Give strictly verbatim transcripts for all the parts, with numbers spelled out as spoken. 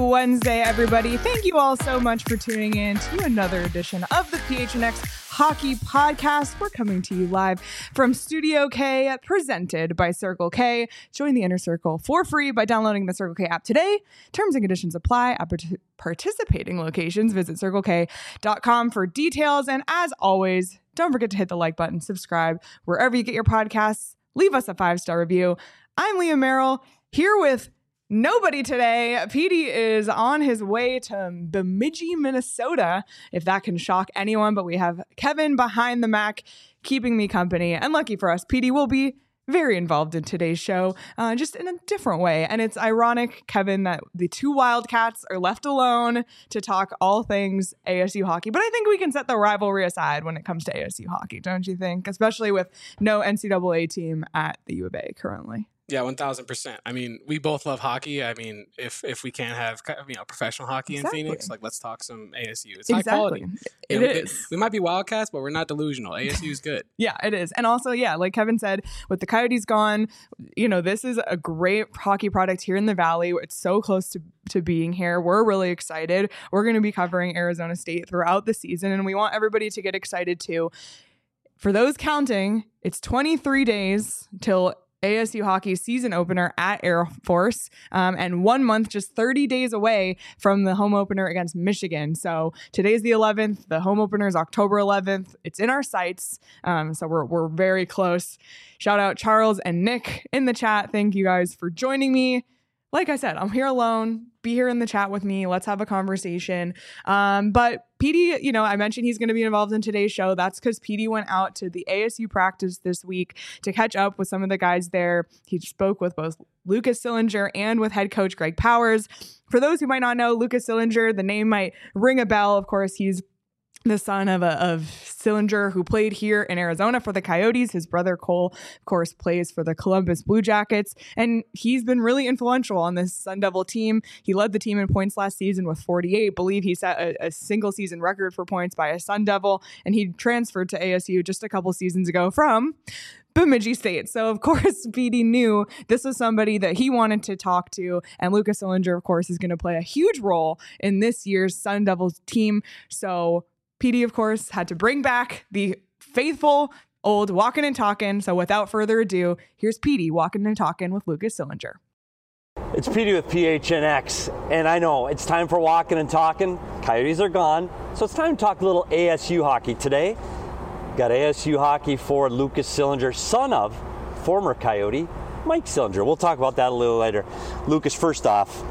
Wednesday, everybody. Thank you all so much for tuning in to another edition of the P H N X Hockey Podcast. We're coming to you live from Studio K, presented by Circle K. Join the Inner Circle for free by downloading the Circle K app today. Terms and conditions apply at part- participating locations. Visit circle k dot com for details. And as always, don't forget to hit the like button, subscribe wherever you get your podcasts. Leave us a five-star review. I'm Leah Merrill, here with nobody today. Petey is on his way to Bemidji, Minnesota, if that can shock anyone. But we have Kevin behind the Mac keeping me company. And lucky for us, Petey will be very involved in today's show, uh, just in a different way. And it's ironic, Kevin, that the two Wildcats are left alone to talk all things A S U hockey. But I think we can set the rivalry aside when it comes to A S U hockey, don't you think? Especially with no N C double A team at the U of A currently. Yeah, one thousand percent. I mean, we both love hockey. I mean, if if we can't have, you know, professional hockey exactly. in Phoenix, like, let's talk some A S U. It's exactly. high quality. It you know, is. It, we might be Wildcats, but we're not delusional. A S U is good. Yeah, it is. And also, yeah, like Kevin said, with the Coyotes gone, you know, this is a great hockey product here in the Valley. It's so close to, to being here. We're really excited. We're going to be covering Arizona State throughout the season, and we want everybody to get excited too. For those counting, it's twenty-three days till A S U hockey's season opener at Air Force, um, and one month, just thirty days away from the home opener against Michigan. So today's the eleventh. The home opener is October eleventh. It's in our sights, um, so we're we're very close. Shout out Charles and Nick in the chat. Thank you guys for joining me. Like I said, I'm here alone. Be here in the chat with me. Let's have a conversation. Um, but Petey, you know, I mentioned he's going to be involved in today's show. That's because Petey went out to the A S U practice this week to catch up with some of the guys there. He spoke with both Lucas Sillinger and with head coach Greg Powers. For those who might not know, Lucas Sillinger, the name might ring a bell. Of course, he's the son of a, of Sillinger, who played here in Arizona for the Coyotes. His brother Cole, of course, plays for the Columbus Blue Jackets, and he's been really influential on this Sun Devil team. He led the team in points last season with forty-eight. Believe he set a, a single season record for points by a Sun Devil, and he transferred to A S U just a couple seasons ago from Bemidji State. So, of course, Petey knew this was somebody that he wanted to talk to. And Lucas Sillinger, of course, is going to play a huge role in this year's Sun Devils team. So Petey, of course, had to bring back the faithful old walking and talking. So without further ado, here's Petey walking and talking with Lucas Sillinger. It's Petey with P H N X, and I know it's time for walking and talking. Coyotes are gone, so it's time to talk a little A S U hockey today. Got A S U hockey for Lucas Sillinger, son of former Coyote Mike Sillinger. We'll talk about that a little later. Lucas, first off,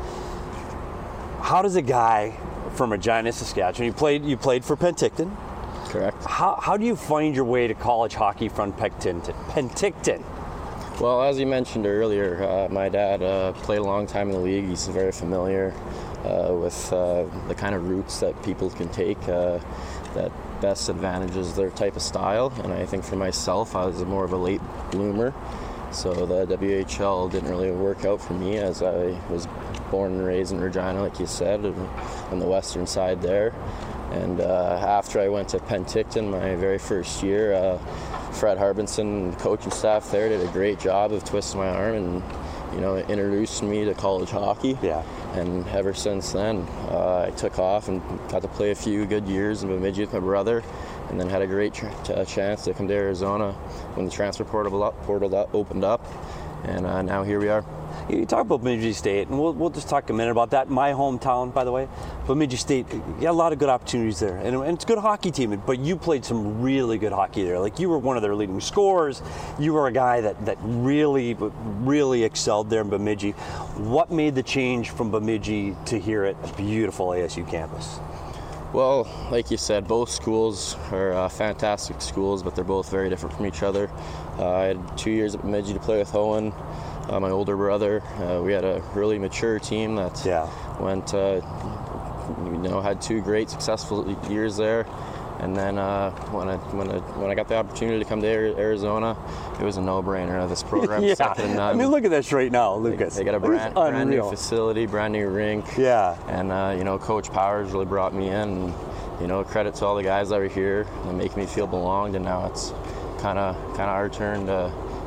how does a guy from Regina, Saskatchewan, you played you played for Penticton? Correct. How, how do you find your way to college hockey from Penticton? Penticton? Well, as you mentioned earlier, uh, my dad uh, played a long time in the league. He's very familiar uh, with uh, the kind of routes that people can take uh, that best advantages their type of style. And I think for myself, I was more of a late bloomer. So the W H L didn't really work out for me, as I was born and raised in Regina, like you said, on the western side there. And uh, after I went to Penticton my very first year, uh, Fred Harbinson, coaching staff there, did a great job of twisting my arm and, you know, introduced me to college hockey. Yeah. And ever since then, uh, I took off and got to play a few good years in Bemidji with my brother, and then had a great ch- t- chance to come to Arizona when the transfer portal, up, portal up, opened up, and uh, now here we are. You talk about Bemidji State, and we'll, we'll just talk a minute about that. My hometown, by the way, Bemidji State, you got a lot of good opportunities there, and, and it's a good hockey team, but you played some really good hockey there. Like, you were one of their leading scorers. You were a guy that, that really, really excelled there in Bemidji. What made the change from Bemidji to here at a beautiful A S U campus? Well, like you said, both schools are uh, fantastic schools, but they're both very different from each other. Uh, I had two years at Bemidji to play with Owen, uh, my older brother. Uh, we had a really mature team that yeah. went, uh, you know, had two great successful years there. And then uh, when I when I when I got the opportunity to come to Arizona, it was a no-brainer. This program yeah. second to none. I mean, look at this right now, Lucas. They, they got a brand, brand new facility, brand new rink. Yeah. And uh, you know, Coach Powers really brought me in. And, you know, credit to all the guys that were here and make me feel belonged. And now it's kind of kind of our turn to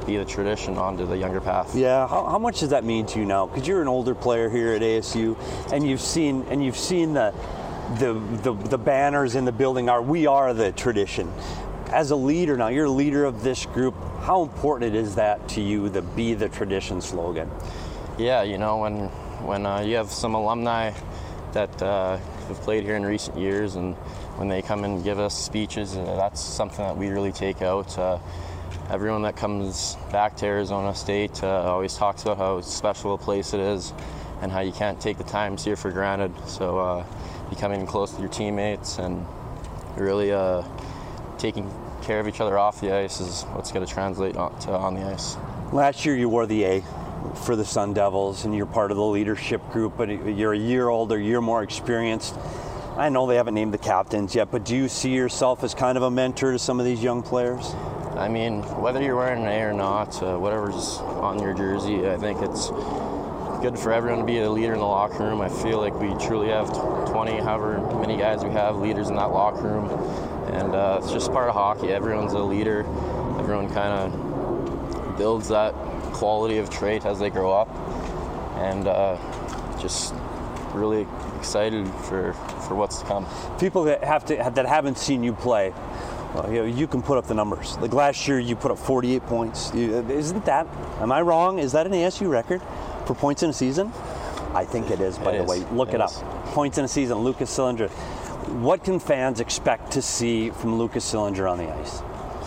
be the tradition onto the younger path. Yeah, how, how much does that mean to you now? Because you're an older player here at A S U, and you've seen and you've seen the the the, the banners in the building are "We are the tradition." As a leader now, you're a leader of this group. How important is that to you, the "Be the Tradition" slogan? Yeah, you know, when when uh, you have some alumni that uh, have played here in recent years, and when they come and give us speeches, uh, that's something that we really take out. Uh, everyone that comes back to Arizona State uh, always talks about how special a place it is and how you can't take the times here for granted. So uh, becoming close to your teammates and really uh, taking care of each other off the ice is what's going to translate on, to on the ice. Last year you wore the A for the Sun Devils, and you're part of the leadership group, but you're a year older, a year more experienced. I know they haven't named the captains yet, but do you see yourself as kind of a mentor to some of these young players? I mean, whether you're wearing an A or not, uh, whatever's on your jersey, I think it's good for everyone to be a leader in the locker room. I feel like we truly have twenty, however many guys we have, leaders in that locker room. And uh, it's just part of hockey. Everyone's a leader. Everyone kind of builds that quality of trait as they grow up. And uh, just really excited for, for what's to come. People that have to that haven't seen you play, well, you know, you can put up the numbers. Like last year, you put up forty-eight points. You, isn't that? Am I wrong? Is that an A S U record for points in a season? I think it is. By it the is. way, look it, it up. Points in a season. Lucas Sillinger. What can fans expect to see from Lucas Sillinger on the ice?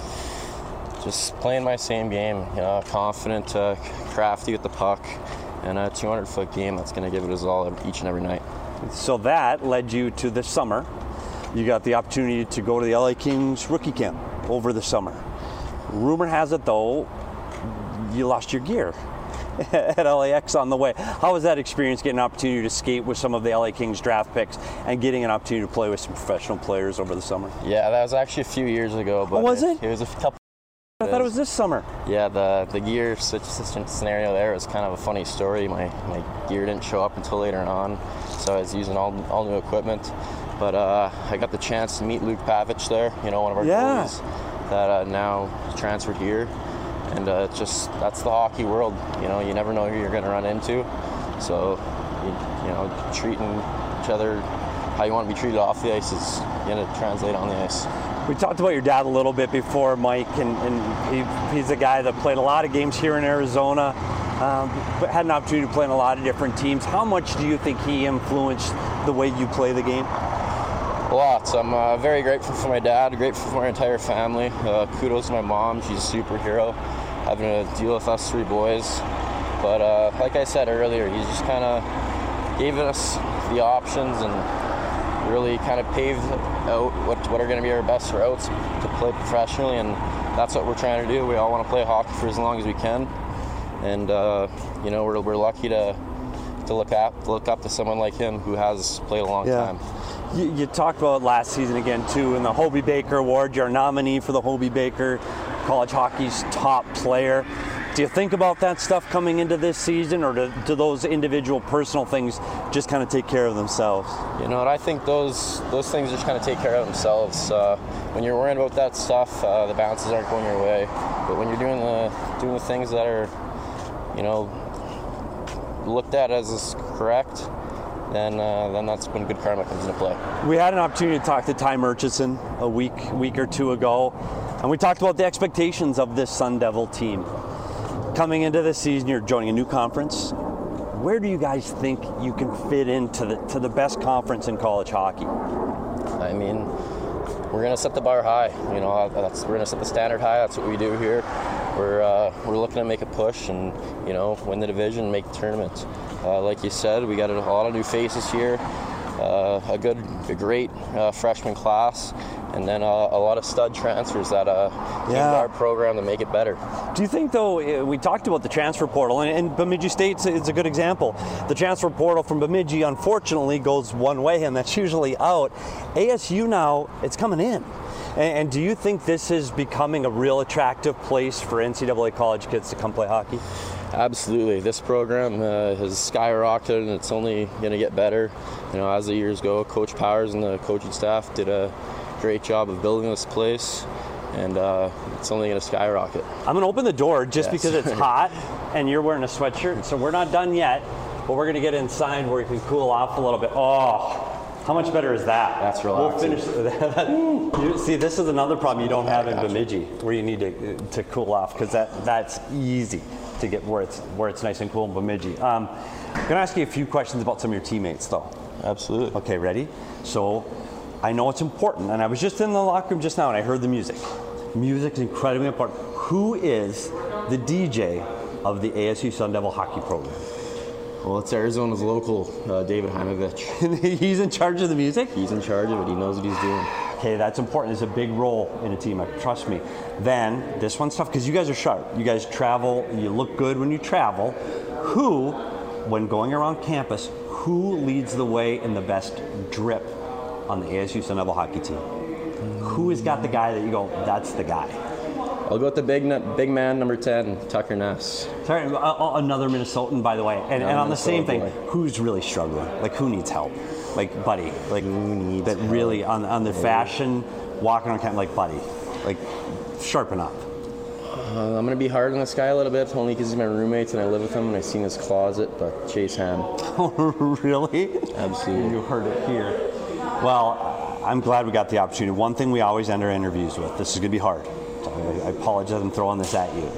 Just playing my same game. You know, confident, uh, crafty with the puck, and a two hundred foot game that's going to give it his all each and every night. So that led you to this summer. You got the opportunity to go to the L A Kings rookie camp over the summer. Rumor has it, though, you lost your gear at L A X on the way. How was that experience, getting an opportunity to skate with some of the L A Kings draft picks and getting an opportunity to play with some professional players over the summer? Yeah, that was actually a few years ago. But Oh, was it? It was a couple. I thought it was this summer. Yeah, the the gear situation scenario there was kind of a funny story. My my gear didn't show up until later on, so I was using all all new equipment. But uh, I got the chance to meet Luke Pavich there, you know, one of our Yeah. goalies that uh, now transferred here. And uh, it's just, that's the hockey world. You know, you never know who you're going to run into. So, you, you know, treating each other how you want to be treated off the ice is going to translate on the ice. We talked about your dad a little bit before, Mike, and, and he, he's a guy that played a lot of games here in Arizona, um, but had an opportunity to play in a lot of different teams. How much do you think he influenced the way you play the game? Lots. I'm uh, very grateful for my dad, grateful for my entire family. Uh, kudos to my mom. She's a superhero, having to deal with us three boys. But uh, like I said earlier, he just kind of gave us the options and really kind of paved out what, what are going to be our best routes to play professionally, and that's what we're trying to do. We all want to play hockey for as long as we can, and uh, you know, we're, we're lucky to to look up look up to someone like him who has played a long Yeah. time. You, you talked about last season again too, in the Hobey Baker Award. You're a nominee for the Hobey Baker, college hockey's top player. Do you think about that stuff coming into this season, or do, do those individual personal things just kind of take care of themselves? You know what? I think those those things just kind of take care of themselves. Uh, when you're worrying about that stuff, uh, the bounces aren't going your way. But when you're doing the doing the things that are, you know, looked at as correct, then uh, then that's when good karma comes into play. We had an opportunity to talk to Ty Murchison a week week or two ago, and we talked about the expectations of this Sun Devil team. Coming into this season, you're joining a new conference. Where do you guys think you can fit into the to the best conference in college hockey? I mean, we're gonna set the bar high. You know, that's we're gonna set the standard high. That's what we do here. We're uh, we're looking to make a push and, you know, win the division, make the tournament. Uh, like you said, we got a lot of new faces here. Uh, a good, a great uh, freshman class, and then uh, a lot of stud transfers that uh, Yeah. use our program to make it better. Do you think, though, we talked about the transfer portal, and, and Bemidji State is a good example. The transfer portal from Bemidji, unfortunately, goes one way, and that's usually out. A S U now, it's coming in. And, and do you think this is becoming a real attractive place for N C double A college kids to come play hockey? Absolutely. This program uh, has skyrocketed, and it's only going to get better. You know, as the years go, Coach Powers and the coaching staff did a great job of building this place, and uh, it's only going to skyrocket. I'm going to open the door just Yes. because it's hot and you're wearing a sweatshirt, so we're not done yet, but we're going to get inside where you can cool off a little bit. Oh, how much better is that? That's We'll relaxing. finish. You, see, this is another problem you don't have in Gotcha. Bemidji, where you need to to cool off, because that that's easy to get where it's where it's nice and cool in Bemidji. Um, I'm going to ask you a few questions about some of your teammates, though. Absolutely. Okay, ready? So, I know it's important, and I was just in the locker room just now, and I heard the music. Music is incredibly important. Who is the D J of the A S U Sun Devil hockey program? Well, it's Arizona's local, uh, David Heimovich. He's in charge of the music? He's in charge of it. He knows what he's doing. Okay, that's important. It's a big role in a team, trust me. Then, this one's tough because you guys are sharp. You guys travel, you look good when you travel. Who, when going around campus, who leads the way in the best drip on the A S U Sun Devil hockey team? Who has got the guy that you go, that's the guy? I'll go with the big big man, number ten, Tucker Ness. Sorry, uh, uh, another Minnesotan, by the way. And, and on the same thing, Minnesota boy. who's really struggling? Like, who needs help? Like, Buddy. Like, Who needs that help? really, on, on the fashion, walking on campus, like, Buddy. Like, sharpen up. Uh, I'm going to be hard on this guy a little bit, only because he's my roommate and I live with him and I've seen his closet, but Chase Ham. Really? Absolutely. You heard it here. Well, I'm glad we got the opportunity. One thing we always end our interviews with, this is going to be hard. I, I apologize, I'm throwing this at you.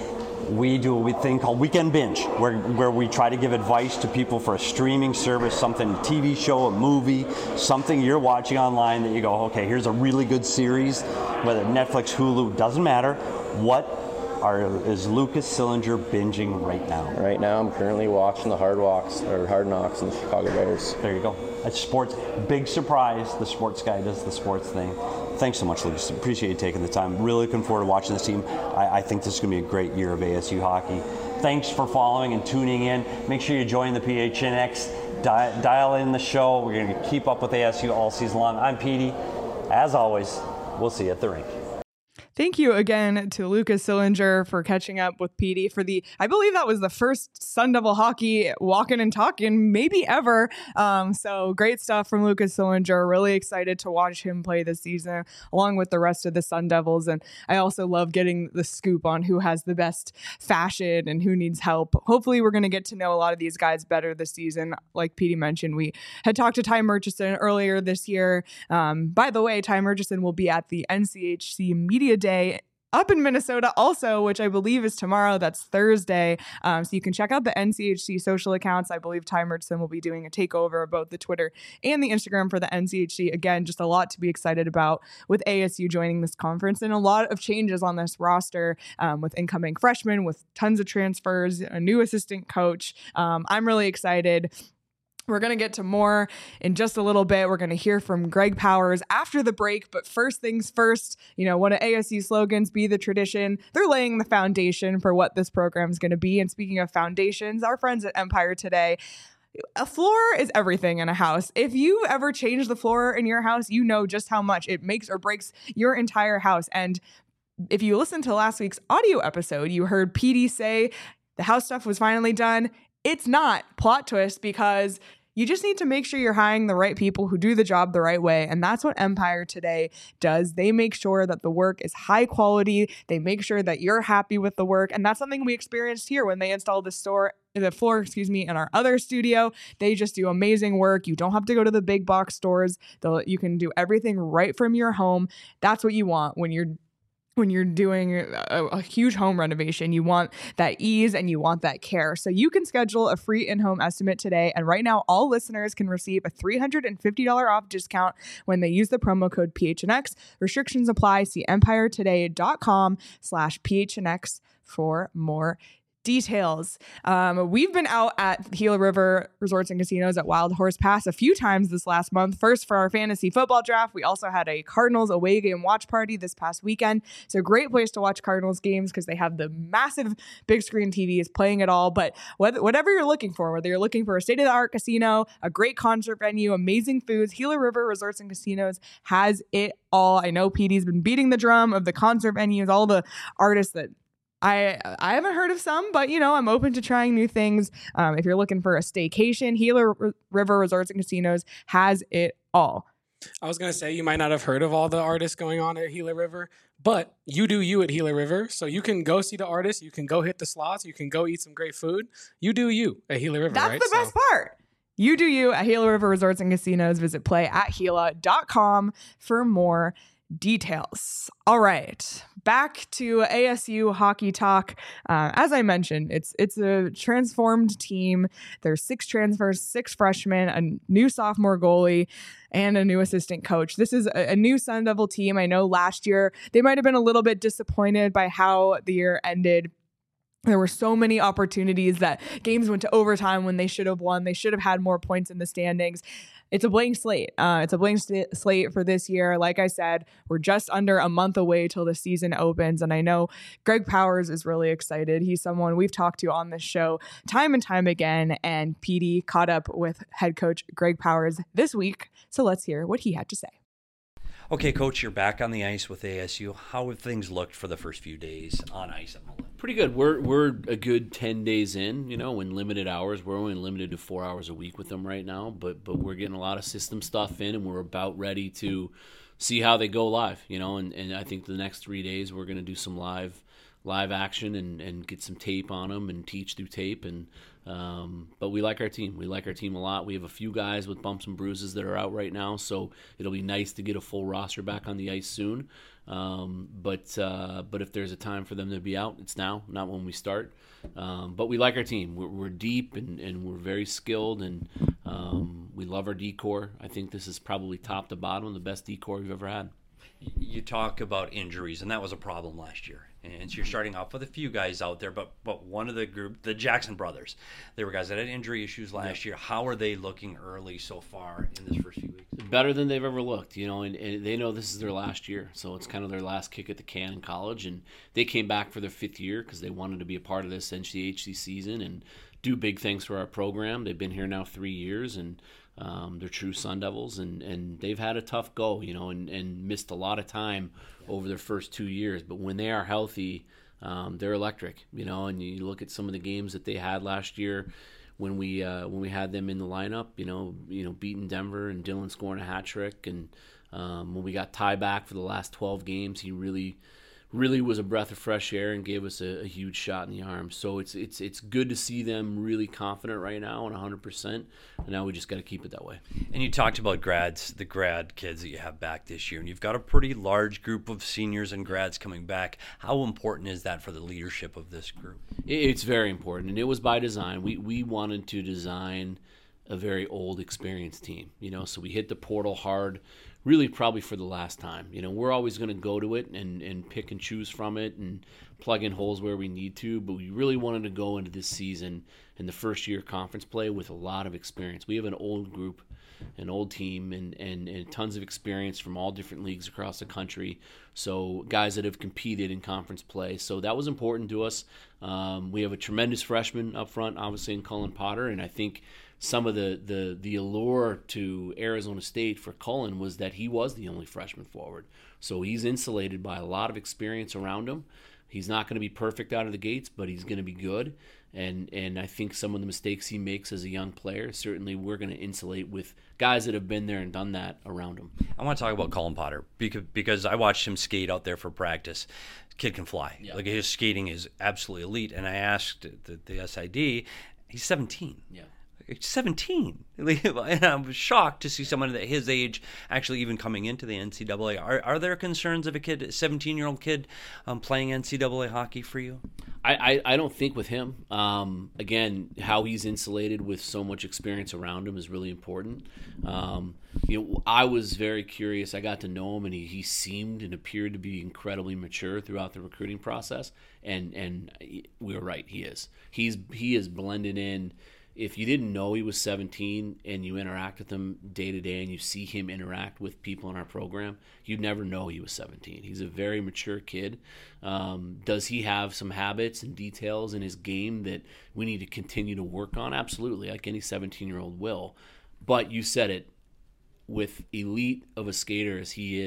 We do a thing called Weekend Binge, where, where we try to give advice to people for a streaming service, something, a T V show, a movie, something you're watching online that you go, okay, here's a really good series, whether Netflix, Hulu, doesn't matter. What are, is Lucas Sillinger binging right now? Right now, I'm currently watching the Hard Walks or Hard Knocks and the Chicago Bears. There you go. That's sports. Big surprise. The sports guy does the sports thing. Thanks so much, Lucas. Appreciate you taking the time. Really looking forward to watching this team. I, I think this is going to be a great year of A S U hockey. Thanks for following and tuning in. Make sure you join the P H N X. Di- dial in the show. We're going to keep up with A S U all season long. I'm Petey. As always, we'll see you at the rink. Thank you again to Lucas Sillinger for catching up with Petey for the, I believe that was the first Sun Devil hockey walking and talking maybe ever. Um, so great stuff from Lucas Sillinger. Really excited to watch him play this season along with the rest of the Sun Devils. And I also love getting the scoop on who has the best fashion and who needs help. Hopefully we're going to get to know a lot of these guys better this season. Like Petey mentioned, we had talked to Ty Murchison earlier this year. Um, by the way, Ty Murchison will be at the N C H C Media Day Day up in Minnesota also, which I believe is tomorrow. That's Thursday. Um, so you can check out the N C H C social accounts. I believe Ty Murchison will be doing a takeover of both the Twitter and the Instagram for the N C H C. Again, just a lot to be excited about with A S U joining this conference and a lot of changes on this roster um, with incoming freshmen, with tons of transfers, a new assistant coach. Um, I'm really excited. We're going to get to more in just a little bit. We're going to hear from Greg Powers after the break. But first things first, you know, one of A S U slogans, be the tradition. They're laying the foundation for what this program is going to be. And speaking of foundations, our friends at Empire Today, a floor is everything in a house. If you've ever changed the floor in your house, you know just how much it makes or breaks your entire house. And if you listened to last week's audio episode, you heard Petey say the house stuff was finally done. It's not. Plot twist, because you just need to make sure you're hiring the right people who do the job the right way. And that's what Empire Today does. They make sure that the work is high quality. They make sure that you're happy with the work. And that's something we experienced here when they installed the store, the floor, excuse me, in our other studio. They just do amazing work. You don't have to go to the big box stores. They'll, you can do everything right from your home. That's what you want when you're When you're doing a, a huge home renovation. You want that ease and you want that care. So you can schedule a free in-home estimate today. And right now, all listeners can receive a three hundred fifty dollars off discount when they use the promo code P H N X. Restrictions apply. See empiretoday.com slash PHNX for more details. Um, we've been out at Gila River Resorts and Casinos at Wild Horse Pass a few times this last month. First for our fantasy football draft. We also had a Cardinals away game watch party this past weekend. It's a great place to watch Cardinals games because they have the massive big screen T Vs playing it all. But whether, whatever you're looking for, whether you're looking for a state-of-the-art casino, a great concert venue, amazing foods, Gila River Resorts and Casinos has it all. I know Petey's been beating the drum of the concert venues, all the artists that I I haven't heard of some, but, you know, I'm open to trying new things. Um, if you're looking for a staycation, Gila R- River Resorts and Casinos has it all. I was going to say, you might not have heard of all the artists going on at Gila River, but you do you at Gila River. So you can go see the artists. You can go hit the slots. You can go eat some great food. You do you at Gila River, That's right? the best so. part. You do you at Gila River Resorts and Casinos. Visit play at gila dot com for more details. All right, back to A S U hockey talk. Uh, as I mentioned, it's it's a transformed team. There's six transfers, six freshmen, a new sophomore goalie, and a new assistant coach. This is a, a new Sun Devil team. I know last year they might have been a little bit disappointed by how the year ended. There were so many opportunities that games went to overtime when they should have won. They should have had more points in the standings. It's a blank slate. Uh, it's a blank st- slate for this year. Like I said, we're just under a month away till the season opens. And I know Greg Powers is really excited. He's someone we've talked to on this show time and time again. And P D caught up with head coach Greg Powers this week. So let's hear what he had to say. Okay, Coach, you're back on the ice with A S U. How have things looked for the first few days on ice at Mullen? Pretty good. We're we're a good ten days in, you know, in limited hours. We're only limited to four hours a week with them right now, but but we're getting a lot of system stuff in, and we're about ready to see how they go live, you know, and, and I think the next three days we're going to do some live live action and, and get some tape on them and teach through tape. And um, but we like our team. We like our team a lot. We have a few guys with bumps and bruises that are out right now, so it'll be nice to get a full roster back on the ice soon. Um, but uh, but if there's a time for them to be out, it's now, not when we start. Um, but we like our team. We're, we're deep and, and we're very skilled, and um, we love our D-core. I think this is probably top to bottom the best D-core we've ever had. You talk about injuries, and that was a problem last year. And so you're starting off with a few guys out there, but but one of the group, the Jackson brothers, they were guys that had injury issues last yeah. year. How are they looking early so far in this first few weeks? Better than they've ever looked, you know, and, and they know this is their last year, so it's kind of their last kick at the can in college. And they came back for their fifth year because they wanted to be a part of this N C H C season and do big things for our program. They've been here now three years, and um, they're true Sun Devils, and, and they've had a tough go, you know, and, and missed a lot of time over their first two years. But when they are healthy, um, they're electric, you know, and you look at some of the games that they had last year when we uh, when we had them in the lineup, you know, you know, beating Denver and Dylan scoring a hat trick, and um, when we got Ty back for the last twelve games, he really, really was a breath of fresh air and gave us a, a huge shot in the arm. So it's it's it's good to see them really confident right now and one hundred percent. And now we just got to keep it that way. And you talked about grads, the grad kids that you have back this year, and you've got a pretty large group of seniors and grads coming back. How important is that for the leadership of this group? It's very important, and it was by design. We we wanted to design a very old, experienced team, you know, so we hit the portal hard, really probably for the last time. You know, we're always going to go to it and, and pick and choose from it and plug in holes where we need to, but we really wanted to go into this season in the first year conference play with a lot of experience. We have an old group, an old team, and, and, and tons of experience from all different leagues across the country, so guys that have competed in conference play. So that was important to us. Um, we have a tremendous freshman up front, obviously, in Cullen Potter, and I think some of the, the, the allure to Arizona State for Cullen was that he was the only freshman forward. So he's insulated by a lot of experience around him. He's not going to be perfect out of the gates, but he's going to be good. And and I think some of the mistakes he makes as a young player, certainly we're going to insulate with guys that have been there and done that around him. I want to talk about Cullen Potter because, because I watched him skate out there for practice. Kid can fly. Yeah. Like, his skating is absolutely elite. And I asked the, the S I D, he's seventeen. Yeah. seventeen. And I was shocked to see someone at his age actually even coming into the N C double A. Are, are there concerns of a kid, a seventeen-year-old kid um, playing N C double A hockey for you? I, I, I don't think with him. Um, again, how he's insulated with so much experience around him is really important. Um, you know, I was very curious. I got to know him, and he, he seemed and appeared to be incredibly mature throughout the recruiting process. And and we were right. He is. He's he is blended in. If you didn't know he was seventeen and you interact with him day to day and you see him interact with people in our program, you'd never know he was seventeen. He's a very mature kid. Um, does he have some habits and details in his game that we need to continue to work on? Absolutely, like any seventeen-year-old will. But you said it, with elite of a skater as he is,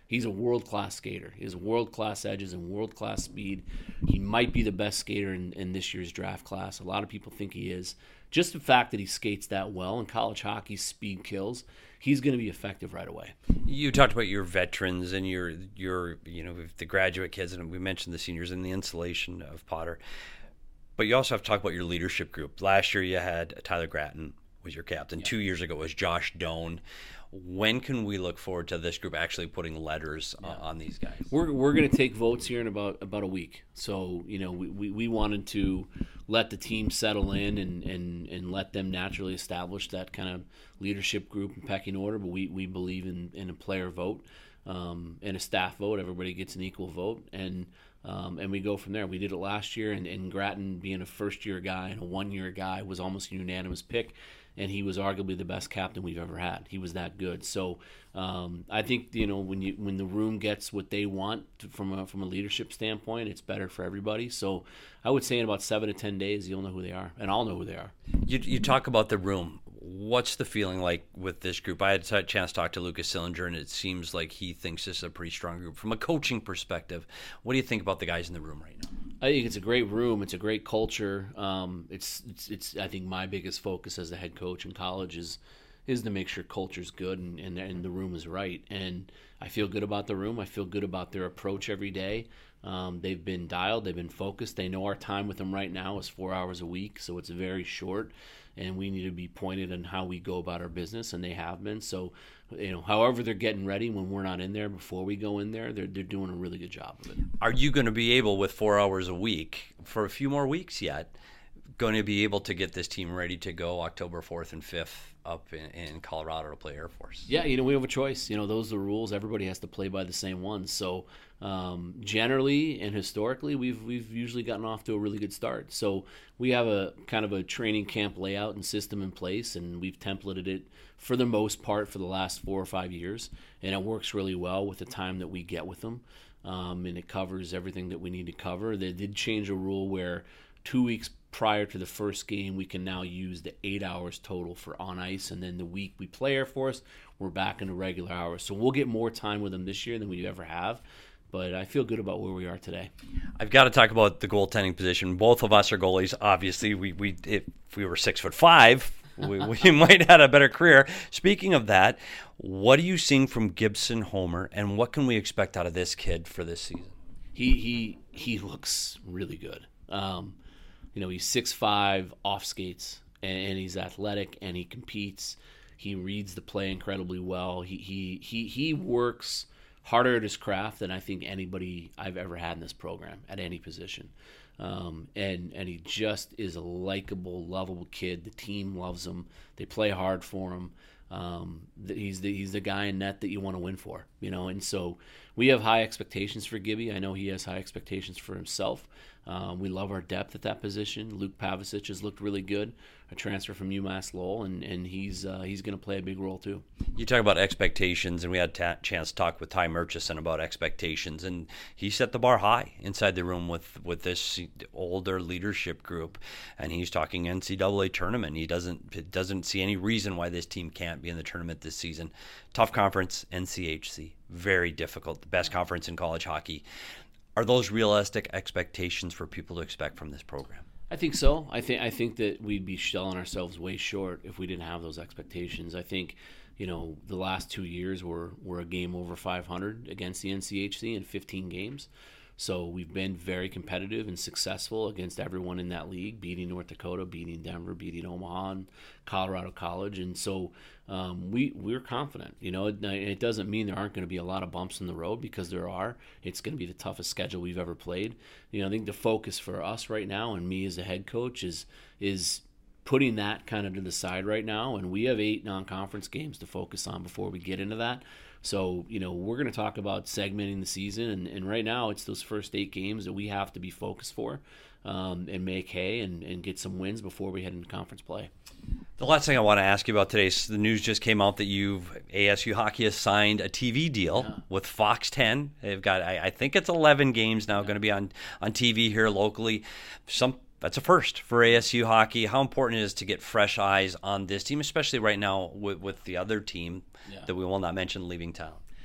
He's a world-class skater. He has world-class edges and world-class speed. He might be the best skater in, in this year's draft class. A lot of people think he is. Just the fact that he skates that well in college hockey, speed kills, he's going to be effective right away. You talked about your veterans and your, your, you know, the graduate kids, and we mentioned the seniors and the installation of Potter. But you also have to talk about your leadership group. Last year you had Tyler Gratton was your captain. Yeah. Two years ago it was Josh Doan. When can we look forward to this group actually putting letters yeah. on these guys? We're we're going to take votes here in about about a week. So, you know, we, we, we wanted to let the team settle in and, and, and let them naturally establish that kind of leadership group and pecking order. But we, we believe in, in a player vote um, and a staff vote. Everybody gets an equal vote. And Um, and we go from there. We did it last year, and, and Gratton, being a first-year guy and a one-year guy, was almost a unanimous pick, and he was arguably the best captain we've ever had. He was that good. So um, I think, you know, when you when the room gets what they want to, from a from a leadership standpoint, it's better for everybody. So I would say in about seven to ten days, you'll know who they are, and I'll know who they are. You you talk about the room. What's the feeling like with this group? I had a chance to talk to Lucas Sillinger, and it seems like he thinks this is a pretty strong group. From a coaching perspective, what do you think about the guys in the room right now? I think it's a great room. It's a great culture. Um, it's, it's, it's. I think my biggest focus as the head coach in college is is to make sure culture's good and, and, and the room is right. And I feel good about the room. I feel good about their approach every day. Um, they've been dialed. They've been focused. They know our time with them right now is four hours a week, so it's very short. And we need to be pointed on how we go about our business, and they have been. So, you know, however they're getting ready when we're not in there, before we go in there, they're they're doing a really good job of it. Are you going to be able, with four hours a week, for a few more weeks yet, going to be able to get this team ready to go October fourth and fifth up in, in Colorado to play Air Force? Yeah, you know, we have a choice. You know, those are the rules. Everybody has to play by the same ones. So um, generally and historically, we've we've usually gotten off to a really good start. So we have a kind of a training camp layout and system in place, and we've templated it for the most part for the last four or five years, and it works really well with the time that we get with them, um, and it covers everything that we need to cover. They did change a rule where two weeks prior to the first game, we can now use the eight hours total for on ice, and then the week we play Air Force, we're back into regular hours. So we'll get more time with them this year than we ever have, but I feel good about where we are today. I've got to talk about the goaltending position. Both of us are goalies. Obviously, we we if we were six foot five, we, we might have had a better career. Speaking of that, what are you seeing from Gibson Homer, and what can we expect out of this kid for this season? He he he looks really good. Um, You know, he's six five, off skates, and, and he's athletic, and he competes. He reads the play incredibly well. He he he he works harder at his craft than I think anybody I've ever had in this program at any position. Um, and and he just is a likable, lovable kid. The team loves him. They play hard for him. Um, he's the he's the guy in net that you want to win for, you know. And so we have high expectations for Gibby. I know he has high expectations for himself. Um, we love our depth at that position. Luke Pavicic has looked really good, a transfer from UMass Lowell, and and he's uh, he's going to play a big role too. You talk about expectations, and we had a chance to talk with Ty Murchison about expectations, and he set the bar high inside the room with, with this older leadership group, and he's talking N C double A tournament. He doesn't doesn't see any reason why this team can't be in the tournament this season. Tough conference, N C H C, very difficult, the best conference in college hockey. Are those realistic expectations for people to expect from this program? I think so. I think I think that we'd be selling ourselves way short if we didn't have those expectations. I think, you know, the last two years were, were a game over five hundred against the N C H C in fifteen games. So we've been very competitive and successful against everyone in that league, beating North Dakota, beating Denver, beating Omaha, and Colorado College. And so um, we, we're confident. You know, it, it doesn't mean there aren't going to be a lot of bumps in the road, because there are. It's going to be the toughest schedule we've ever played. You know, I think the focus for us right now, and me as a head coach, is is putting that kind of to the side right now. And we have eight non-conference games to focus on before we get into that. So, you know, we're going to talk about segmenting the season, and, and right now it's those first eight games that we have to be focused for um, and make hay and, and get some wins before we head into conference play. The last thing I want to ask you about today is the news just came out that you've A S U Hockey has signed a T V deal yeah. with Fox ten. They've got, I, I think it's eleven games now yeah. going to be on, on T V here locally. Some That's a first for A S U Hockey. How important it is to get fresh eyes on this team, especially right now with, with the other team yeah. that we will not mention leaving town.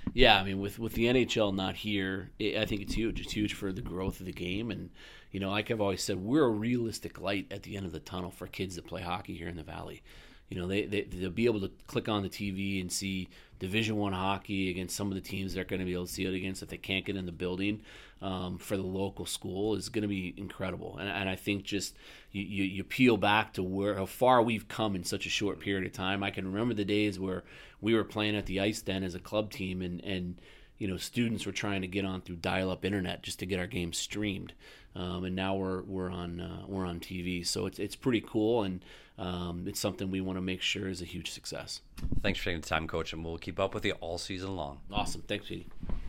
Yeah, I mean, with, with the N H L not here, it, I think it's huge. It's huge for the growth of the game. And, you know, like I've always said, we're a realistic light at the end of the tunnel for kids that play hockey here in the Valley. You know, they, they, they'll be able to click on the T V and see Division One hockey against some of the teams they're going to be able to see it against if they can't get in the building um, for the local school is going to be incredible. And, and I think just you, you, you peel back to where how far we've come in such a short period of time. I can remember the days where we were playing at the Ice Den as a club team and, and you know, students were trying to get on through dial-up internet just to get our games streamed. Um, and now we're we're on uh, we're on T V, so it's it's pretty cool, and um, it's something we want to make sure is a huge success. Thanks for taking the time, Coach, and we'll keep up with you all season long. Awesome, thanks, Petey.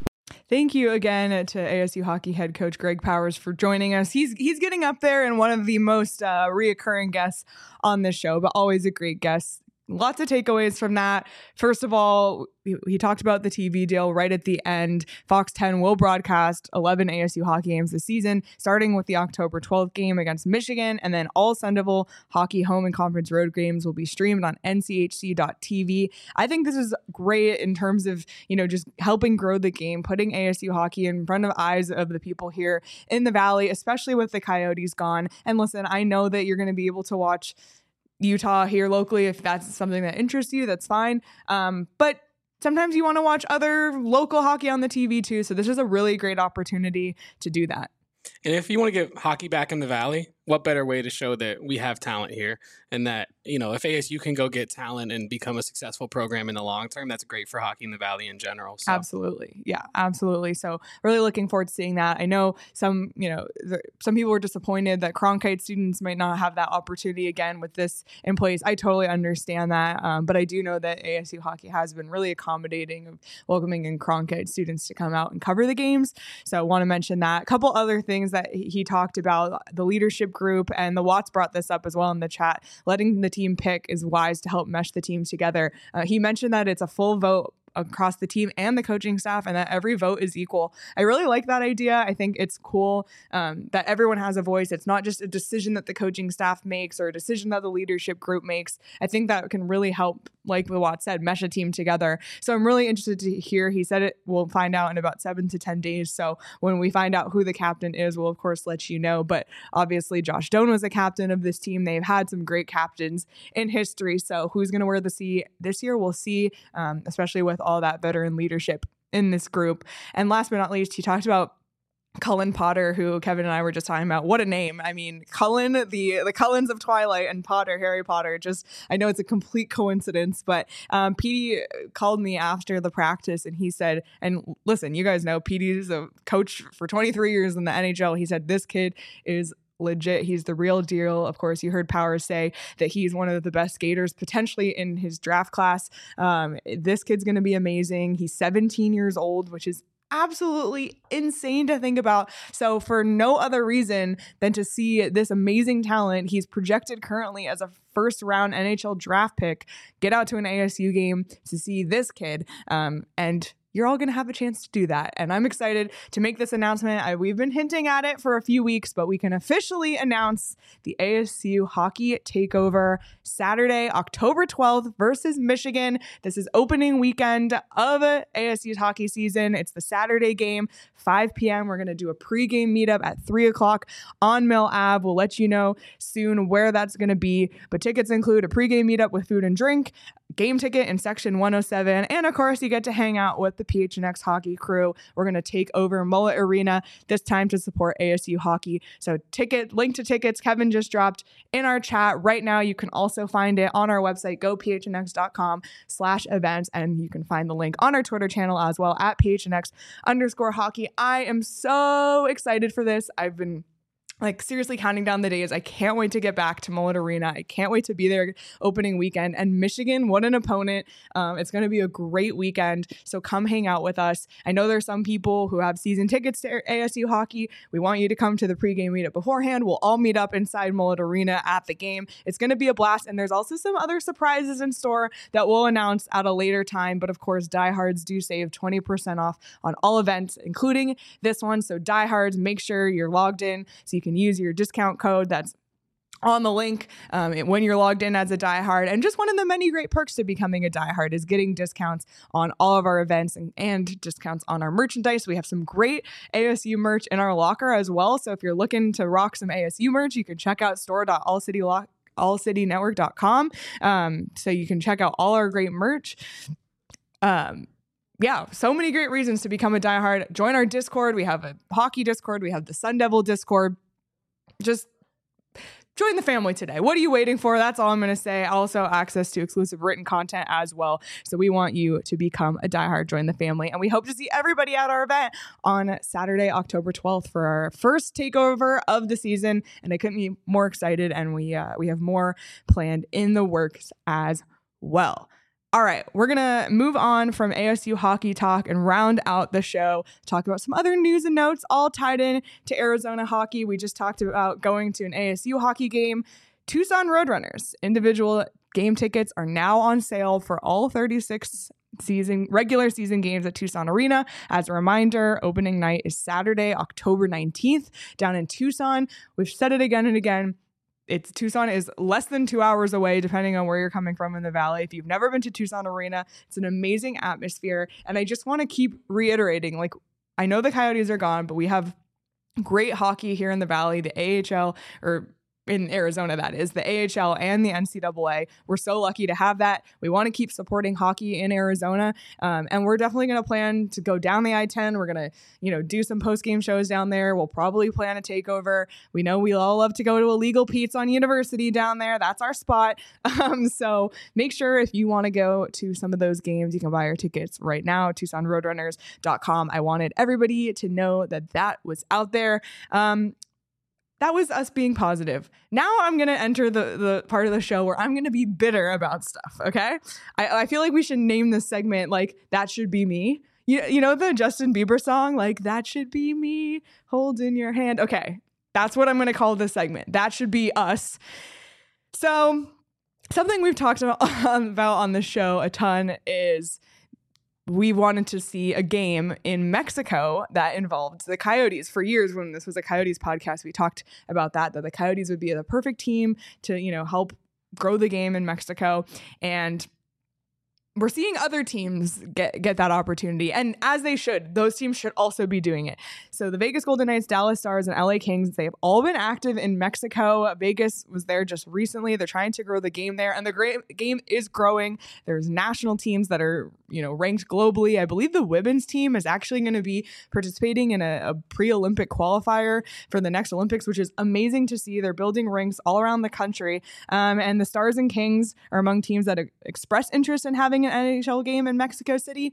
Thank you again to A S U hockey head coach Greg Powers for joining us. He's he's getting up there and one of the most uh, reoccurring guests on this show, but always a great guest. Lots of takeaways from that. First of all, he talked about the T V deal right at the end. Fox ten will broadcast eleven A S U hockey games this season, starting with the October twelfth game against Michigan, and then all Sun Devil hockey home and conference road games will be streamed on N C H C dot T V. I think this is great in terms of, you know, just helping grow the game, putting A S U hockey in front of eyes of the people here in the Valley, especially with the Coyotes gone. And listen, I know that you're going to be able to watch Utah here locally if that's something that interests you, that's fine. Um, but sometimes you want to watch other local hockey on the T V too. So this is a really great opportunity to do that. And if you want to get hockey back in the Valley, what better way to show that we have talent here and that, you know, if A S U can go get talent and become a successful program in the long term, that's great for hockey in the Valley in general. So. Absolutely. Yeah, absolutely. So really looking forward to seeing that. I know some, you know, the, some people were disappointed that Cronkite students might not have that opportunity again with this in place. I totally understand that. Um, but I do know that A S U hockey has been really accommodating of welcoming in Cronkite students to come out and cover the games. So I want to mention that. A couple other things that he talked about, the leadership group, and the Watts brought this up as well in the chat. Letting the team pick is wise to help mesh the teams together. Uh, he mentioned that it's a full vote across the team and the coaching staff, and that every vote is equal. I really like that idea. I think it's cool um, that everyone has a voice. It's not just a decision that the coaching staff makes or a decision that the leadership group makes. I think that can really help, like Watt said, mesh a team together. So I'm really interested to hear. He said it. We'll find out in about seven to ten days. So when we find out who the captain is, we'll of course let you know. But obviously Josh Doan was the captain of this team. They've had some great captains in history. So who's going to wear the C this year? We'll see, um, especially with all that veteran leadership in this group. And last but not least, he talked about Cullen Potter, who Kevin and I were just talking about. What a name. I mean, Cullen, the the Cullens of Twilight, and Potter, Harry Potter. Just, I know it's a complete coincidence, but um, Petey called me after the practice and he said, and listen, you guys know Petey is a coach for twenty-three years in the N H L. He said, this kid is legit. He's the real deal. Of course, you heard Powers say that he's one of the best skaters potentially in his draft class. Um, this kid's going to be amazing. He's seventeen years old, which is absolutely insane to think about. So for no other reason than to see this amazing talent, he's projected currently as a first round N H L draft pick, get out to an A S U game to see this kid. Um, and you're all going to have a chance to do that. And I'm excited to make this announcement. I, we've been hinting at it for a few weeks, but we can officially announce the A S U Hockey Takeover Saturday, October twelfth versus Michigan. This is opening weekend of A S U's hockey season. It's the Saturday game, five p.m. We're going to do a pregame meetup at three o'clock on Mill Avenue. We'll let you know soon where that's going to be. But tickets include a pregame meetup with food and drink, game ticket in section one oh seven, and of course, you get to hang out with the P H N X hockey crew. We're going to take over Mullet Arena this time to support A S U hockey. So ticket, link to tickets, Kevin just dropped in our chat right now. You can also find it on our website, go p h n x dot com slash events, and you can find the link on our Twitter channel as well at phnx underscore hockey. I am so excited for this. I've been like seriously counting down the days. I can't wait to get back to Mullet Arena. I can't wait to be there opening weekend. And Michigan, what an opponent. Um, it's going to be a great weekend. So come hang out with us. I know there's some people who have season tickets to A S U hockey. We want you to come to the pregame meetup beforehand. We'll all meet up inside Mullet Arena at the game. It's going to be a blast. And there's also some other surprises in store that we'll announce at a later time. But of course, diehards do save twenty percent off on all events, including this one. So diehards, make sure you're logged in so you can use your discount code. That's on the link um, when you're logged in as a diehard. And just one of the many great perks to becoming a diehard is getting discounts on all of our events and, and discounts on our merchandise. We have some great A S U merch in our locker as well. So if you're looking to rock some A S U merch, you can check out store dot all city lock all city network dot com. Um, so you can check out all our great merch. Um, yeah, so many great reasons to become a diehard. Join our Discord. We have a hockey Discord. We have the Sun Devil Discord. Just join the family today. What are you waiting for? That's all I'm going to say. Also, access to exclusive written content as well. So we want you to become a diehard, join the family. And we hope to see everybody at our event on Saturday, October twelfth for our first takeover of the season. And I couldn't be more excited. And we uh, we have more planned in the works as well. All right, we're going to move on from A S U hockey talk and round out the show, talk about some other news and notes all tied in to Arizona hockey. We just talked about going to an A S U hockey game. Tucson Roadrunners individual game tickets are now on sale for all thirty-six season regular season games at Tucson Arena. As a reminder, opening night is Saturday, October nineteenth down in Tucson. We've said it again and again. It's Tucson is less than two hours away, depending on where you're coming from in the Valley. If you've never been to Tucson Arena, it's an amazing atmosphere. And I just want to keep reiterating, like, I know the Coyotes are gone, but we have great hockey here in the Valley, the A H L, or in Arizona, that is, the A H L and the N C double A. We're so lucky to have that. We want to keep supporting hockey in Arizona. Um, and we're definitely going to plan to go down the I ten. We're going to, you know, do some post-game shows down there. We'll probably plan a takeover. We know we all love to go to Illegal Pete's on University down there. That's our spot. Um, so make sure if you want to go to some of those games, you can buy your tickets right now, Tucson Roadrunners dot com. I wanted everybody to know that that was out there. Um, That was us being positive. Now I'm going to enter the, the part of the show where I'm going to be bitter about stuff, okay? I, I feel like we should name this segment, like, That Should Be Me. You, you know the Justin Bieber song, like, that should be me holding your hand? Okay, that's what I'm going to call this segment. That should be us. So something we've talked about, about on the show a ton is we wanted to see a game in Mexico that involved the Coyotes. For years, when this was a Coyotes podcast, we talked about that, that the Coyotes would be the perfect team to, you know, help grow the game in Mexico. And we're seeing other teams get, get that opportunity, and as they should. Those teams should also be doing it. So the Vegas Golden Knights, Dallas Stars, and L A Kings, they have all been active in Mexico. Vegas was there just recently. They're trying to grow the game there, and the great game is growing. There's national teams that are, you know, ranked globally. I believe the women's team is actually going to be participating in a, a pre-Olympic qualifier for the next Olympics, which is amazing to see. They're building rinks all around the country, um, and the Stars and Kings are among teams that express interest in having an N H L game in Mexico City.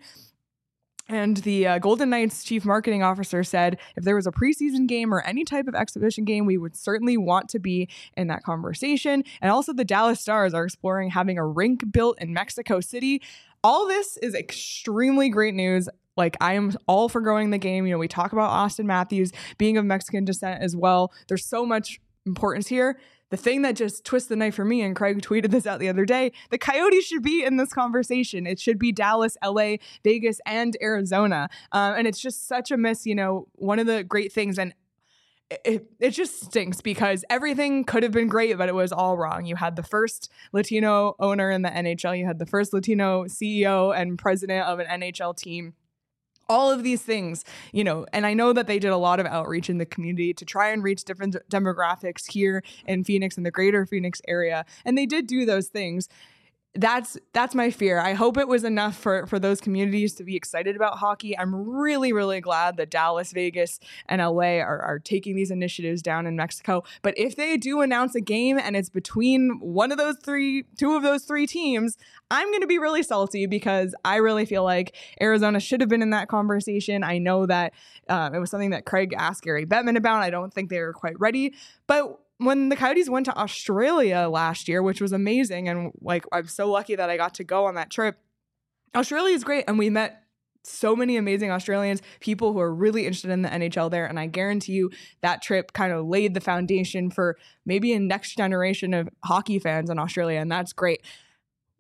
And the uh, Golden Knights chief marketing officer said if there was a preseason game or any type of exhibition game, we would certainly want to be in that conversation. And also the Dallas Stars are exploring having a rink built in Mexico City. All this is extremely great news. Like, I am all for growing the game. You know, we talk about Austin Matthews being of Mexican descent as well. There's so much importance here. The thing that just twists the knife for me, and Craig tweeted this out the other day, the Coyotes should be in this conversation. It should be Dallas, L A, Vegas, and Arizona. Um, and it's just such a miss, you know, one of the great things. And it, it just stinks because everything could have been great, but it was all wrong. You had the first Latino owner in the N H L. You had the first Latino C E O and president of an N H L team. All of these things, you know, and I know that they did a lot of outreach in the community to try and reach different demographics here in Phoenix and the greater Phoenix area. And they did do those things. That's that's my fear. I hope it was enough for, for those communities to be excited about hockey. I'm really, really glad that Dallas, Vegas, and L A are, are taking these initiatives down in Mexico. But if they do announce a game and it's between one of those three, two of those three teams, I'm going to be really salty because I really feel like Arizona should have been in that conversation. I know that uh, it was something that Craig asked Gary Bettman about. I don't think they were quite ready. But when the Coyotes went to Australia last year, which was amazing, and like I'm so lucky that I got to go on that trip. Australia is great, and we met so many amazing Australians, people who are really interested in the N H L there, and I guarantee you that trip kind of laid the foundation for maybe a next generation of hockey fans in Australia, and that's great.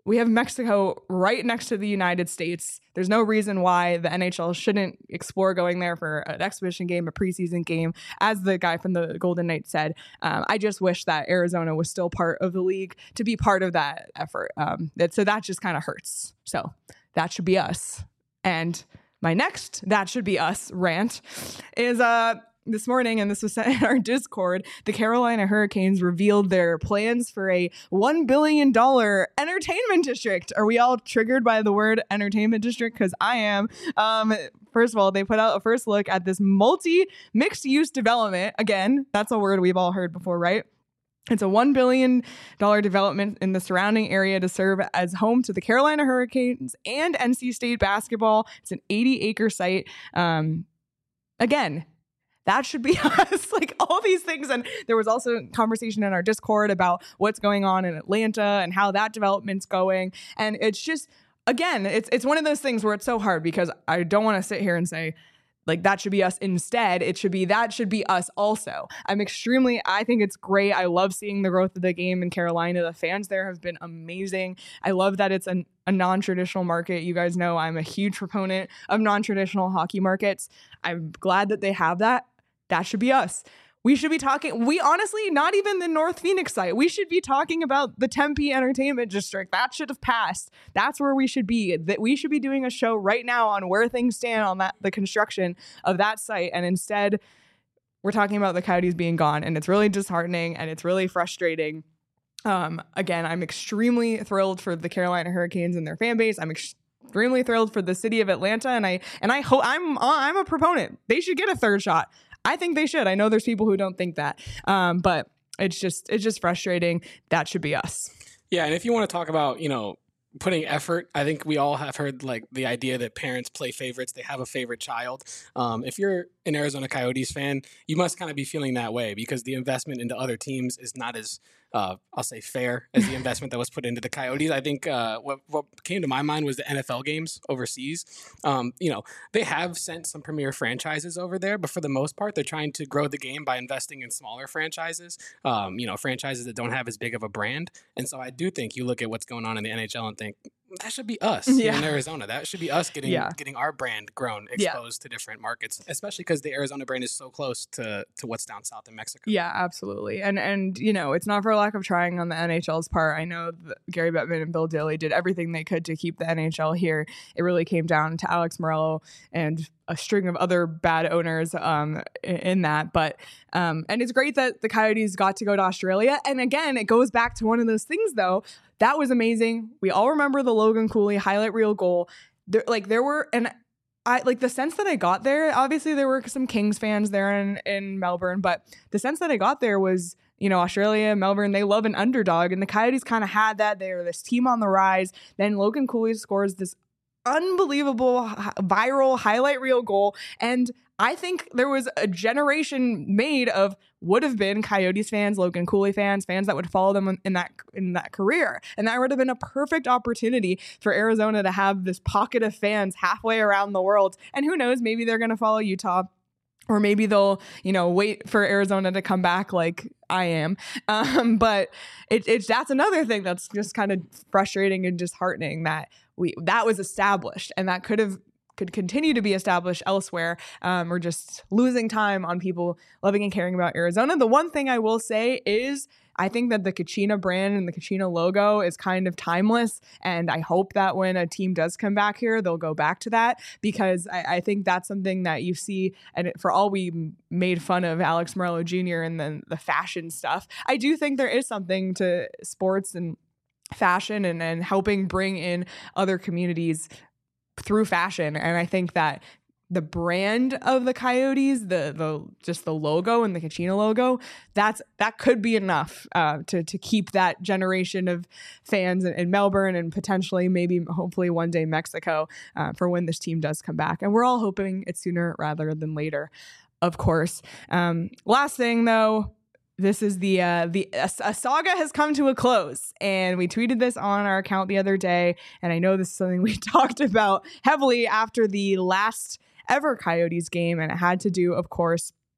we have Mexico right next to the United States. There's no reason why the N H L shouldn't explore going there for an exhibition game, a preseason game. As the guy from the Golden Knights said, um, I just wish that Arizona was still part of the league to be part of that effort. Um, that, so that just kind of hurts. So that should be us. And my next that should be us rant is uh this morning, and this was sent in our Discord, the Carolina Hurricanes revealed their plans for a one billion dollars entertainment district. Are we all triggered by the word entertainment district? Because I am. Um, first of all, they put out a first look at this multi mixed use development. Again, that's a word we've all heard before, right? It's a one billion dollars development in the surrounding area to serve as home to the Carolina Hurricanes and N C State basketball. It's an eighty acre site. Um, again, that should be us, like all these things. And there was also conversation in our Discord about what's going on in Atlanta and how that development's going. And it's just, again, it's it's one of those things where it's so hard because I don't want to sit here and say, like, that should be us instead. It should be, that should be us also. I'm extremely, I think it's great. I love seeing the growth of the game in Carolina. The fans there have been amazing. I love that it's an, a non-traditional market. You guys know I'm a huge proponent of non-traditional hockey markets. I'm glad that they have that. That should be us. We should be talking, we honestly, not even the North Phoenix site. We should be talking about the Tempe Entertainment District. That should have passed. That's where we should be. That we should be doing a show right now on where things stand on that, the construction of that site. And instead, we're talking about the Coyotes being gone. And it's really disheartening and it's really frustrating. Um, again, I'm extremely thrilled for the Carolina Hurricanes and their fan base. I'm ex- extremely thrilled for the city of Atlanta. And I, and I hope I'm, I'm a proponent. They should get a third shot. I think they should. I know there's people who don't think that, um, but it's just it's just frustrating. That should be us. Yeah, and if you want to talk about, you know, putting effort, I think we all have heard like the idea that parents play favorites. They have a favorite child. Um, if you're an Arizona Coyotes fan, you must kind of be feeling that way because the investment into other teams is not as Uh, I'll say fair as the investment that was put into the Coyotes. I think uh, what what came to my mind was the N F L games overseas. Um, you know, they have sent some premier franchises over there, but for the most part, they're trying to grow the game by investing in smaller franchises. Um, you know, franchises that don't have as big of a brand. And so I do think you look at what's going on in the N H L and think that should be us yeah. in Arizona. That should be us getting yeah. getting our brand grown, exposed yeah. to different markets, especially because the Arizona brand is so close to to what's down south in Mexico. Yeah, absolutely. And and you know, it's not for lack of trying on the N H L's part. I know that Gary Bettman and Bill Daly did everything they could to keep the N H L here. It really came down to Alex Morello and a string of other bad owners um, in that. But um, and it's great that the Coyotes got to go to Australia. And again, it goes back to one of those things, though. That was amazing. We all remember the Logan Cooley highlight reel goal. There, like there were, and I like the sense that I got there. Obviously, there were some Kings fans there in, in Melbourne, but the sense that I got there was, you know, Australia, Melbourne, they love an underdog, and the Coyotes kind of had that. They were this team on the rise. Then Logan Cooley scores this unbelievable viral highlight reel goal, and I think there was a generation made of would have been Coyotes fans, Logan Cooley fans, fans that would follow them in that in that career. And that would have been a perfect opportunity for Arizona to have this pocket of fans halfway around the world. And who knows, maybe they're going to follow Utah. Or maybe they'll, you know, wait for Arizona to come back like I am. Um, but it, it's that's another thing that's just kind of frustrating and disheartening that we that was established and that could have could continue to be established elsewhere. Um, we're just losing time on people loving and caring about Arizona. The one thing I will say is I think that the Kachina brand and the Kachina logo is kind of timeless. And I hope that when a team does come back here, they'll go back to that, because I, I think that's something that you see. And for all we made fun of Alex Morello Junior and then the fashion stuff, I do think there is something to sports and fashion and, and helping bring in other communities through fashion. And I think that the brand of the Coyotes, the the just the logo and the Kachina logo, that's that could be enough uh, to to keep that generation of fans in, in Melbourne and potentially maybe hopefully one day Mexico uh, for when this team does come back. And we're all hoping it's sooner rather than later, of course. Um, last thing though. This is the, uh, the a, a saga has come to a close, and we tweeted this on our account the other day. And I know this is something we talked about heavily after the last ever Coyotes game. And it had to do, of course,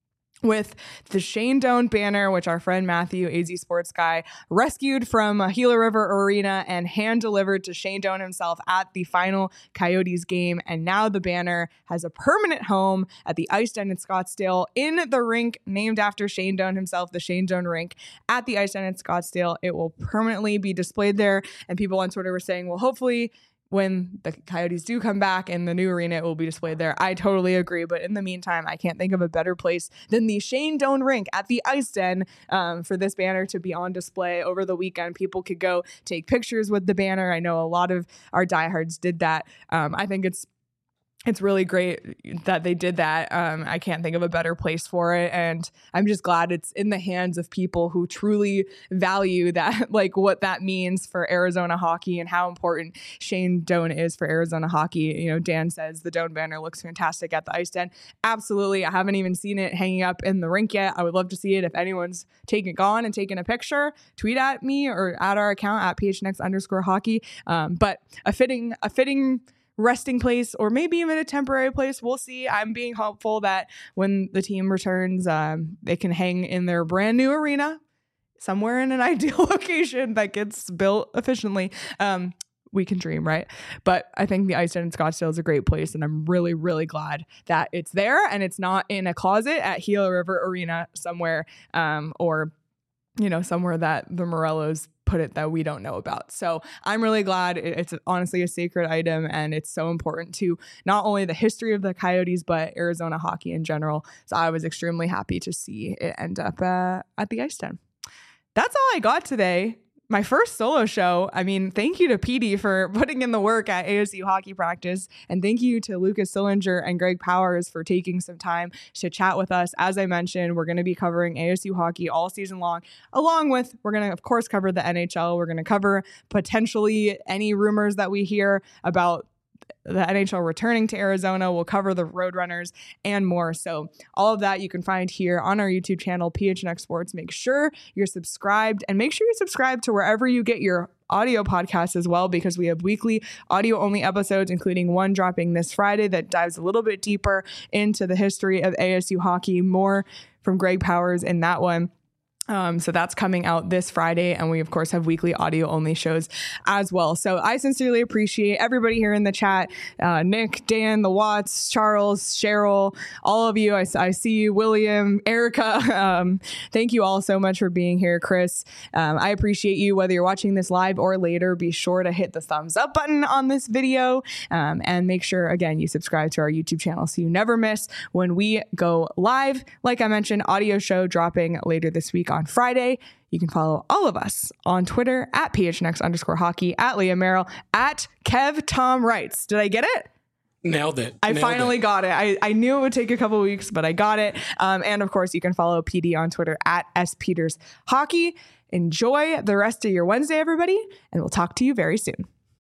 with the Shane Doan banner, which our friend Matthew, A Z Sports Guy, rescued from uh, Gila River Arena and hand-delivered to Shane Doan himself at the final Coyotes game. And now the banner has a permanent home at the Ice Den in Scottsdale in the rink named after Shane Doan himself, the Shane Doan rink at the Ice Den in Scottsdale. It will permanently be displayed there. And people on Twitter were saying, well, hopefully when the Coyotes do come back in the new arena, it will be displayed there. I totally agree. But in the meantime, I can't think of a better place than the Shane Doan rink at the Ice Den um, for this banner to be on display over the weekend. People could go take pictures with the banner. I know a lot of our diehards did that. Um, I think it's It's really great that they did that. Um, I can't think of a better place for it. And I'm just glad it's in the hands of people who truly value that, like what that means for Arizona hockey and how important Shane Doan is for Arizona hockey. You know, Dan says the Doan banner looks fantastic at the Ice Den. Absolutely. I haven't even seen it hanging up in the rink yet. I would love to see it. If anyone's taken it gone and taken a picture, tweet at me or at our account at P H N X underscore hockey. Um, but a fitting, a fitting, resting place, or maybe even a temporary place. We'll see. I'm being hopeful that when the team returns, um, they can hang in their brand new arena somewhere in an ideal location that gets built efficiently. Um, we can dream, right? But I think the Ice Den in Scottsdale is a great place, and I'm really, really glad that it's there and it's not in a closet at Gila River Arena somewhere, um, or you know, somewhere that the Morellos put it that we don't know about. So I'm really glad. It's honestly a sacred item, and it's so important to not only the history of the Coyotes, but Arizona hockey in general. So I was extremely happy to see it end up uh, at the Ice Den. That's all I got today. My first solo show. I mean, thank you to P D for putting in the work at A S U hockey practice. And thank you to Lucas Sillinger and Greg Powers for taking some time to chat with us. As I mentioned, we're going to be covering A S U hockey all season long, along with, we're going to, of course, cover the N H L. We're going to cover potentially any rumors that we hear about the N H L returning to Arizona. We'll cover the Roadrunners and more. So all of that you can find here on our YouTube channel, P H N X Sports. Make sure you're subscribed, and make sure you subscribe to wherever you get your audio podcasts as well, because we have weekly audio only episodes, including one dropping this Friday that dives a little bit deeper into the history of A S U hockey, more from Greg Powers in that one. Um, so that's coming out this Friday. And we, of course, have weekly audio only shows as well. So I sincerely appreciate everybody here in the chat. Uh, Nick, Dan, the Watts, Charles, Cheryl, all of you. I, I see you, William, Erica. Um, thank you all so much for being here. Chris, um, I appreciate you. Whether you're watching this live or later, be sure to hit the thumbs up button on this video, um, and make sure, again, you subscribe to our YouTube channel so you never miss when we go live. Like I mentioned, audio show dropping later this week on Friday. You can follow all of us on Twitter at P H N X underscore hockey, at Leah Merrill, at Kev Tom Wrights. Did I get it? Nailed it. I Nailed finally it. got it. I, I knew it would take a couple of weeks, but I got it. Um, and of course, you can follow P D on Twitter at S Peters Hockey. Enjoy the rest of your Wednesday, everybody, and we'll talk to you very soon.